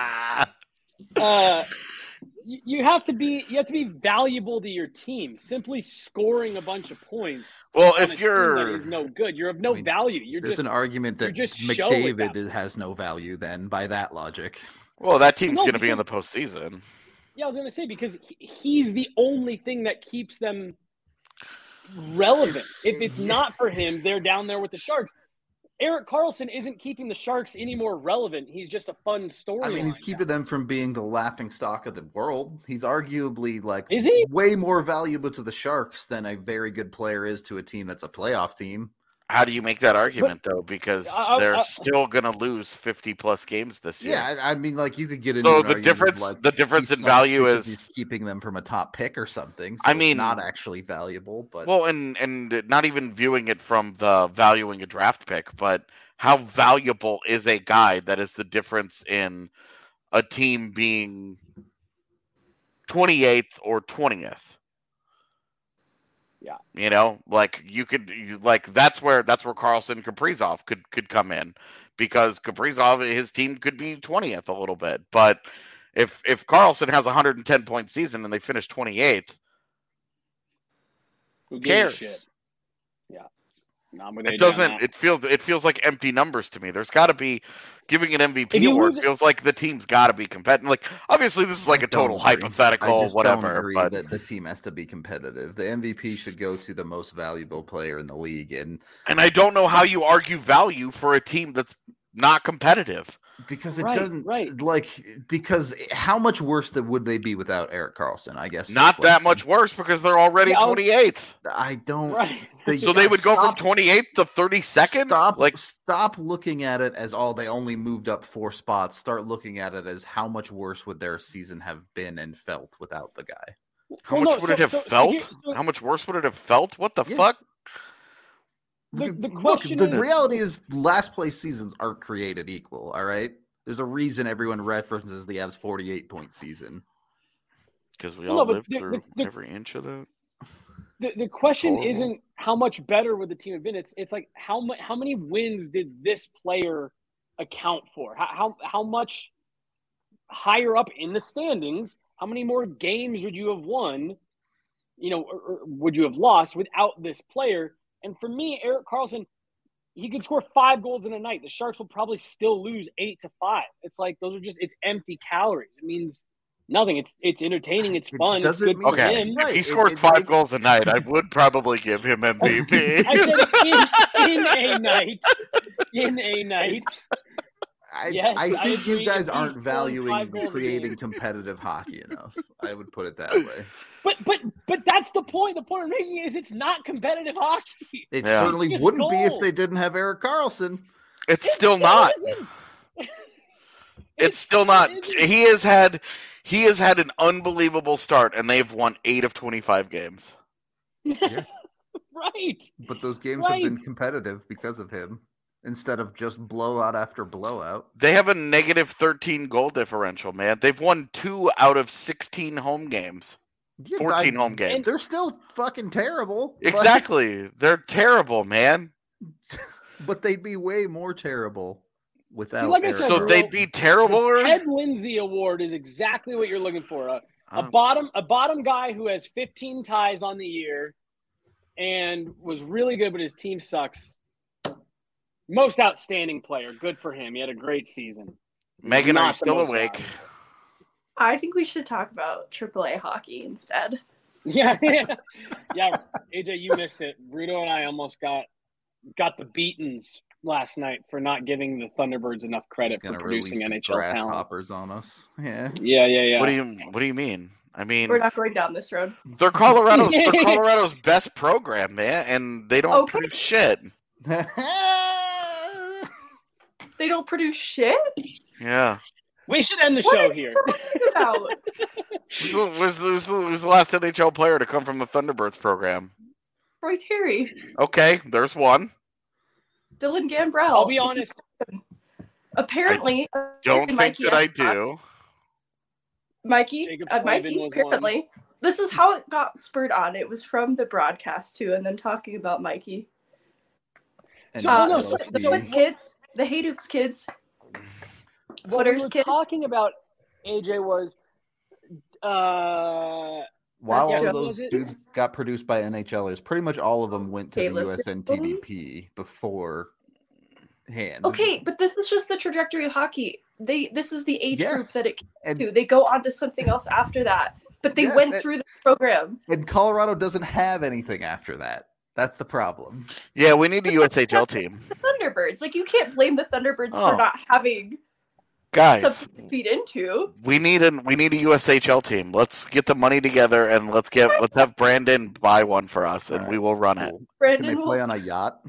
B: Uh, you, you have to be. You have to be valuable to your team. Simply scoring a bunch of points.
C: Well,
B: on
C: if
B: a team
C: you're
B: that is no good, you're of no
A: I mean,
B: value. You're
A: There's
B: just
A: an argument that
B: just show at
A: McDavid
B: that
A: is- has no value. Then, by that logic,
C: well, that team's
B: No,
C: going to be in the
B: because-
C: postseason.
B: Yeah, I was going to say because he, he's the only thing that keeps them relevant. If it's not for him, they're down there with the Sharks. Erik Karlsson isn't keeping the Sharks any more relevant. He's just a fun story.
A: I mean, he's keeping them from being the laughing stock of the world. He's arguably like
B: Is he?
A: way more valuable to the Sharks than a very good player is to a team that's a playoff team.
C: How do you make that argument, though? Because
B: I- I-
C: they're
B: I-
C: still going to lose fifty plus games this year.
A: Yeah, I, I mean, like you could get into
C: So
A: an
C: the
A: argument
C: difference-
A: like
C: the difference
A: he
C: in
A: sucks
C: value
A: because
C: is-
A: he's keeping them from a top pick or something. So
C: I
A: it's
C: mean-
A: not actually valuable, but
C: Well, and and not even viewing it from the valuing a draft pick, but how valuable is a guy that is the difference in a team being twenty-eighth or twentieth?
B: Yeah.
C: You know, like you could you, like that's where that's where Karlsson Kaprizov could could come in, because Kaprizov, his team could be twentieth a little bit, but if if Karlsson has a one hundred ten point season and they finish twenty-eighth,
B: Who
C: who
B: gives a
C: cares?
B: shit? Yeah. Not with
C: It
B: A J on
C: doesn't.
B: that.
C: It feels. It feels like empty numbers to me. There's got to be giving an M V
B: If
C: P
B: you
C: award.
B: lose-
C: Feels like the team's got to be competitive. Like obviously, this is like
A: I
C: a total
A: don't agree.
C: hypothetical,
A: I just
C: whatever.
A: don't agree
C: But
A: that the team has to be competitive. The M V P should go to the most valuable player in the league, and
C: and I don't know how you argue value for a team that's not competitive.
A: because it
B: Right,
A: doesn't
B: right.
A: like because how much worse that would they be without Erik Karlsson? I guess is
C: Not
A: the
C: that
A: question.
C: much worse because they're already
B: Yeah, I'll-
C: twenty-eighth.
A: I don't.
B: Right.
A: They-
C: So they would go
A: stop-
C: from twenty-eighth to thirty-second.
A: Stop,
C: Like
A: stop looking at it as oh they only moved up four spots. Start looking at it as how much worse would their season have been and felt without the guy.
C: how
B: Well,
C: much
B: no,
C: would
B: so-
C: it have
B: so- so
C: felt?
B: here- so-
C: How much worse would it have felt? What the
A: Yeah.
C: fuck?
B: The-
A: Look,
B: the
A: look,
B: question
A: the
B: is-
A: reality is last place seasons aren't created equal. All right, there's a reason everyone references the Avs forty-eight point season.
C: Because we
B: Well,
C: all
B: no, but
C: lived
B: the-
C: through
B: the- the-
C: every inch of that.
B: The, the question
C: Horrible.
B: isn't how much better would the team have been. It's it's like how much how many wins did this player account for? How how how much higher up in the standings? How many more games would you have won? You know, or, or would you have lost without this player? And for me, Erik Karlsson, he could score five goals in a night. The Sharks will probably still lose eight to five. It's like those are just it's empty calories. It means nothing. It's it's entertaining. It's
A: It
B: fun. It's
A: doesn't
B: good
A: mean-
B: for
C: Okay,
B: him.
A: Right,
C: if he
A: it-
C: scores
A: it
C: five
A: makes-
C: goals a night, I would probably give him M V P.
B: I said in, in a night. In a night.
A: I,
B: Yes,
A: I
B: I
A: think
B: agree.
A: you guys
B: If he's
A: aren't
B: scoring
A: valuing
B: five goals a
A: creating
B: game.
A: competitive hockey enough. I would put it that way.
B: But but but that's the point. The point I'm making is it's not competitive hockey.
A: It
C: Yeah.
A: certainly
B: It's just
A: wouldn't be if
B: goals.
A: they didn't have Erik Karlsson.
C: It's
B: It
C: still
B: still
C: not.
B: isn't.
C: It's
B: It
C: still not.
B: isn't.
C: He has had he has had an unbelievable start, and they've won eight of twenty-five games.
B: Right.
A: But those games have been
B: Right.
A: competitive because of him instead of just blowout after blowout.
C: They have a negative thirteen goal differential, man. They've won two out of sixteen home games,
A: Yeah,
C: fourteen
A: I-
C: home games.
A: They're still fucking terrible. but-
C: Exactly. They're terrible, man.
A: But they'd be way more terrible without
B: like I
A: Erik
B: said,
C: So
B: Bro,
C: they'd be terrible.
B: The Ted Lindsay Award is exactly what you're looking for. A, a
C: Um,
B: bottom a bottom guy who has fifteen ties on the year and was really good, but his team sucks. Most outstanding player. Good for him. He had a great season.
C: Megan, are you
B: Not the
C: still
B: most
C: awake?
B: valuable.
D: I think we should talk about triple A hockey instead.
B: Yeah, yeah, yeah. A J, you missed it. Rudo and I almost got got the beatings last night for not giving the Thunderbirds enough credit for
A: gonna
B: producing
A: release
B: N
A: the
B: H L talent.
A: grasshoppers on us. Yeah.
B: Yeah, yeah, yeah.
C: What do you What do you mean? I mean,
D: We're not going down this road.
C: they're Colorado's they're Colorado's best program, man, and they don't
D: Okay.
C: produce shit.
D: They don't produce shit?
C: Yeah.
B: We should end the
D: What
B: show
D: are you
B: here.
D: talking about?
C: Who's was, was, was the last N H L player to come from the Thunderbirds program?
D: Roy Terry.
C: Okay, there's one.
D: Dylan Gambrell.
B: I'll be honest.
D: Apparently,
C: Don't think
D: Mikey
C: that I do.
D: Mikey,
B: Jacob
D: uh,
B: Slavin
D: Mikey,
B: was
D: apparently.
B: one.
D: This is how it got spurred on. It was from the broadcast, too, and then talking about Mikey.
A: And
B: So,
D: Uh,
B: no,
A: L
B: so-
A: S
D: the
A: D.
D: Twins kids, the Haydukes kids,
B: What we
D: Footers
B: were
D: kids.
B: talking about, A J, was uh,
A: While
D: Yeah,
A: all of
B: was
A: those
B: it-
A: dudes got produced by NHLers, pretty much all of them went to
D: Caleb
A: the U S N T D P before hand.
D: Okay, but this is just the trajectory of hockey. They This is the age group
A: Yes,
D: that it
A: and-
D: came to. They go on to something else after that, but they
A: Yes,
D: went
A: and-
D: through the program.
A: And Colorado doesn't have anything after that. That's the problem.
C: Yeah, we need a U S H L team.
D: The Thunderbirds. Like, you can't blame the Thunderbirds
C: Oh.
D: for not having
C: Guys,
D: something to feed into.
C: we need a we need a U S H L team. Let's get the money together and let's get let's have Brandon buy one for us and
A: All
C: we
A: right,
C: will run it.
A: Cool. Can
D: Brandon
A: they
D: will
A: play on a yacht?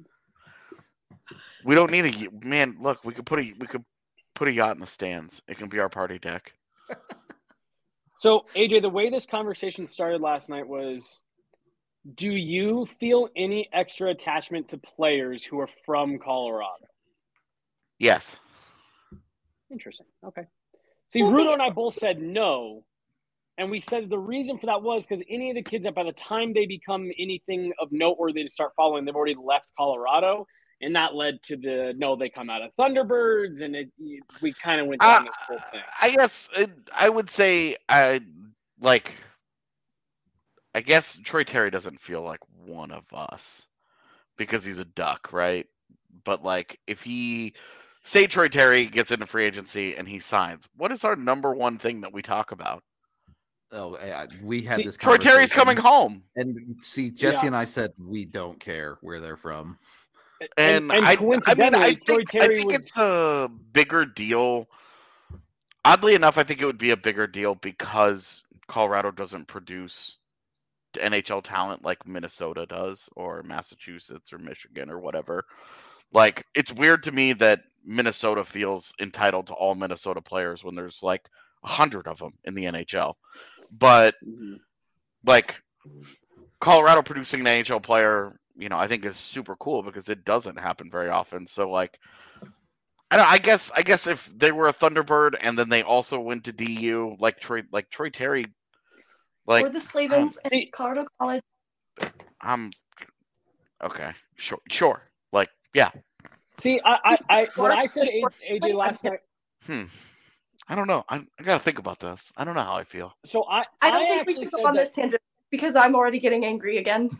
C: We don't need a man. Look, we could put a we could put a yacht in the stands. It can be our party deck.
B: So, A J, the way this conversation started last night was, do you feel any extra attachment to players who are from Colorado?
C: Yes.
B: Interesting. Okay. See,
D: Well,
B: Rudo
D: they-
B: and I both said no. And we said the reason for that was because any of the kids that by the time they become anything of noteworthy to start following, they've already left Colorado. And that led to the, no, they come out of Thunderbirds. And it, we kind of went down
C: Uh,
B: this whole thing.
C: I guess it, I would say I like. I guess Troy Terry doesn't feel like one of us because he's a Duck, right? But like, if he say Troy Terry gets into free agency and he signs, what is our number one thing that we talk about?
A: Oh, I- we had
B: See,
A: this.
C: Troy Terry's coming
A: conversation,
C: home,
A: and see, Jesse
B: Yeah.
A: and I said we don't care where they're from.
C: and,
B: and, and
C: I, I mean,
B: coincidentally,
C: I
B: Troy
C: think, I
B: Terry
C: think
B: was
C: it's a bigger deal. Oddly enough, I think it would be a bigger deal because Colorado doesn't produce N H L talent like Minnesota does, or Massachusetts, or Michigan, or whatever. Like, it's weird to me that Minnesota feels entitled to all Minnesota players when there's like a hundred of them in the N H L. But like Colorado producing an N H L player, you know, I think is super cool because it doesn't happen very often. So like, I don't. I guess. I guess if they were a Thunderbird and then they also went to D U, like Troy, like Troy Terry, like
D: or the Slavens
B: um,
D: and
B: see-
D: Colorado College.
C: I'm okay. Sure, sure. Like, yeah.
B: See, I, I, I when I said A J last night,
C: Hmm. I don't know. I, I gotta think about this. I don't know how I feel.
B: so I,
D: I don't think we
B: actually
D: should
B: said
D: go on
B: that,
D: this tangent because I'm already getting angry again.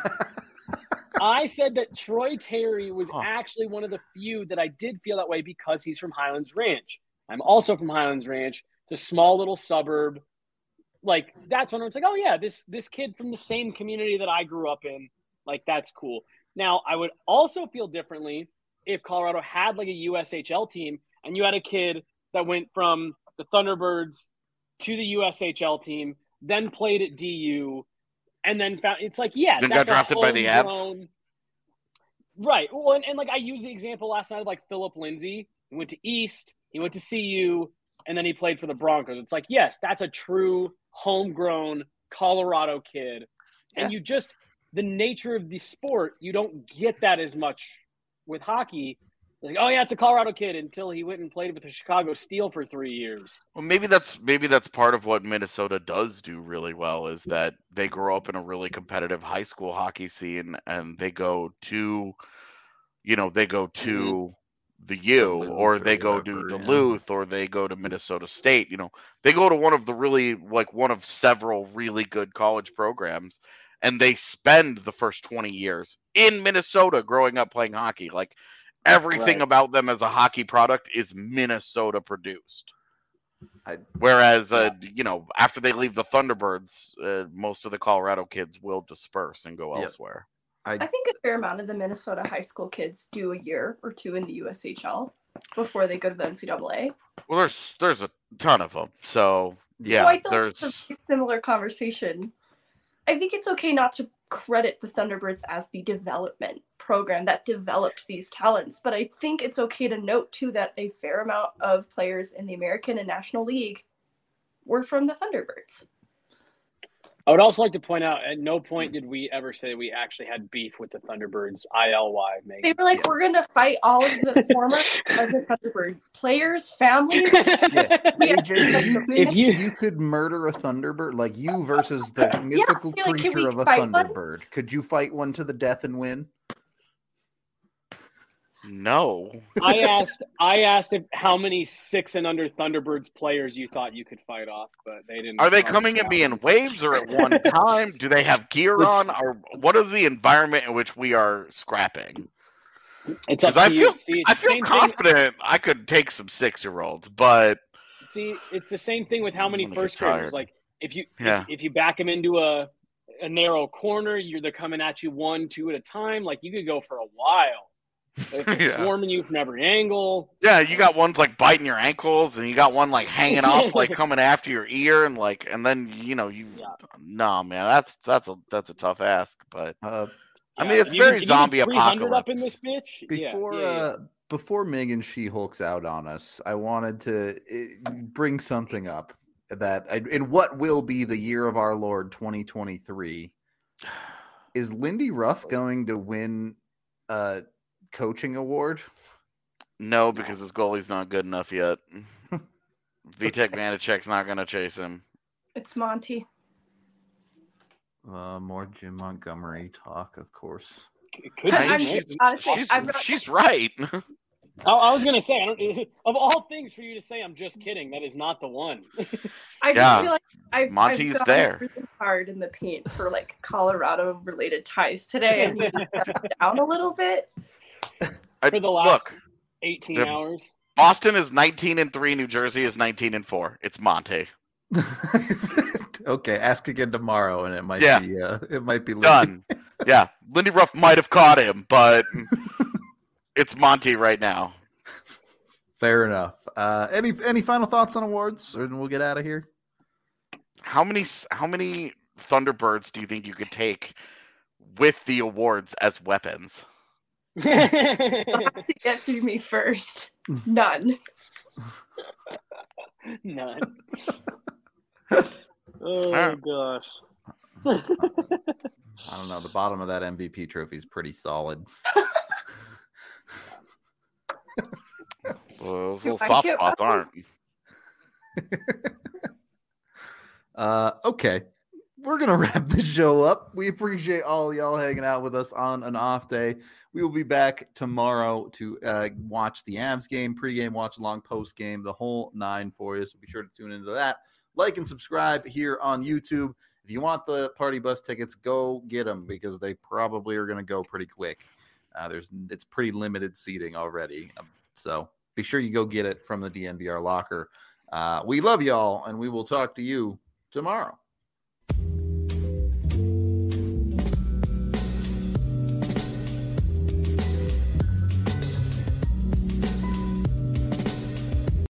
B: I said that Troy Terry was
C: Huh.
B: actually one of the few that I did feel that way because he's from Highlands Ranch. I'm also from Highlands Ranch. It's a small little suburb. Like, that's when it's like, oh yeah, this this kid from the same community that I grew up in. Like, that's cool. Now, I would also feel differently if Colorado had like a U S H L team and you had a kid that went from the Thunderbirds to the U S H L team, then played at D U, and then found it's like, yeah,
C: Then
B: that's
C: got drafted
B: a
C: by the Avs?
B: homegrown- Right. Well, and, and like I used the example last night of like Philip Lindsay. He went to East, he went to C U, and then he played for the Broncos. It's like, yes, that's a true homegrown Colorado kid.
C: Yeah.
B: And you just, the nature of the sport, you don't get that as much with hockey. It's like, oh yeah, it's a Colorado kid until he went and played with the Chicago Steel for three years.
C: Well, maybe that's maybe that's part of what Minnesota does do really well is that they grow up in a really competitive high school hockey scene, and they go to, you know, they go to the U,
A: Duluth
C: or
A: or
C: they go to
A: whatever, yeah.
C: Duluth, or they go to Minnesota State. You know, they go to one of the really like one of several really good college programs, and they spend the first twenty years in Minnesota growing up playing hockey. Like, everything
B: Right.
C: about them as a hockey product is Minnesota produced.
A: I-
C: Whereas, uh, you know, after they leave the Thunderbirds, uh, most of the Colorado kids will disperse and go
A: Yep.
C: elsewhere.
D: I think a fair amount of the Minnesota high school kids do a year or two in the U S H L before they go to the N C double A.
C: Well, there's there's a ton of them. So yeah,
D: So I feel like it's
C: there's
D: a very similar conversation. I think it's okay not to credit the Thunderbirds as the development program that developed these talents, but I think it's okay to note too that a fair amount of players in the American and National League were from the Thunderbirds.
B: I would also like to point out, at no point did we ever say we actually had beef with the Thunderbirds. I L Y, Megan.
D: They were like, yeah. we're going to fight all of the former present Thunderbird players, families.
A: Yeah. A J, do you think if you... you could murder a Thunderbird? Like you versus the mythical yeah, creature like, of a Thunderbird. One? Could you fight one to the death and win?
C: No.
B: I asked I asked if how many six and under Thunderbirds players you thought you could fight off, but they didn't.
C: Are they coming at me in waves or at one time? Do they have gear it's, on? Or what is the environment in which we are scrapping?
B: It's up to
C: I feel,
B: you. See,
C: I feel confident thing. I could take some six-year-olds, but
B: see, it's the same thing with how many first graders. Like if you
C: yeah.
B: if, if you back them into a a narrow corner, you're they're coming at you one, two at a time. Like you could go for a while. They're yeah. swarming you from every angle.
C: Yeah, you got ones like biting your ankles, and you got one like hanging off, like coming after your ear, and like, and then you know you. Yeah. No, man, that's that's a that's a tough ask, but uh, I yeah, mean it's very zombie apocalypse.
B: Up in this bitch?
A: Before yeah, yeah, yeah. Uh, before Megan She-Hulks out on us, I wanted to uh, bring something up that I, in what will be the year of our Lord twenty twenty-three. Is Lindy Ruff going to win? Uh, coaching award?
C: No, because his goalie's not good enough yet. Vitek Vanacek's not going to chase him.
D: It's Monty.
A: Uh, more Jim Montgomery talk, of course.
C: Could I mean, she's, honestly, she's, not... she's right.
B: I, I was going to say, I don't, of all things for you to say, I'm just kidding. That is not the one.
D: I just yeah. feel like I've,
C: Monty's
D: I've
C: there.
D: Really hard in the paint for like Colorado-related ties today. I need to step down a little bit.
B: For the last Look, eighteen the, hours.
C: Boston is nineteen and three. New Jersey is nineteen and four. It's Monty.
A: Okay, ask again tomorrow, and it might
C: yeah.
A: be uh, it might be
C: Lindy. Done. Yeah, Lindy Ruff might have caught him, but it's Monty right now.
A: Fair enough. Uh, any any final thoughts on awards, or we'll get out of here?
C: How many how many Thunderbirds do you think you could take with the awards as weapons?
D: Has to get through me first. None.
B: None. Oh uh, gosh.
A: I don't know. The bottom of that M V P trophy is pretty solid.
C: Well, those little soft spots aren't.
A: uh, okay. We're going to wrap the show up. We appreciate all y'all hanging out with us on an off day. We will be back tomorrow to uh, watch the Avs game, pregame, watch along, postgame, the whole nine for you. So be sure to tune into that. Like and subscribe here on YouTube. If you want the party bus tickets, go get them because they probably are going to go pretty quick. Uh, there's It's pretty limited seating already. Um, so be sure you go get it from the D N V R locker. Uh, we love y'all, and we will talk to you tomorrow.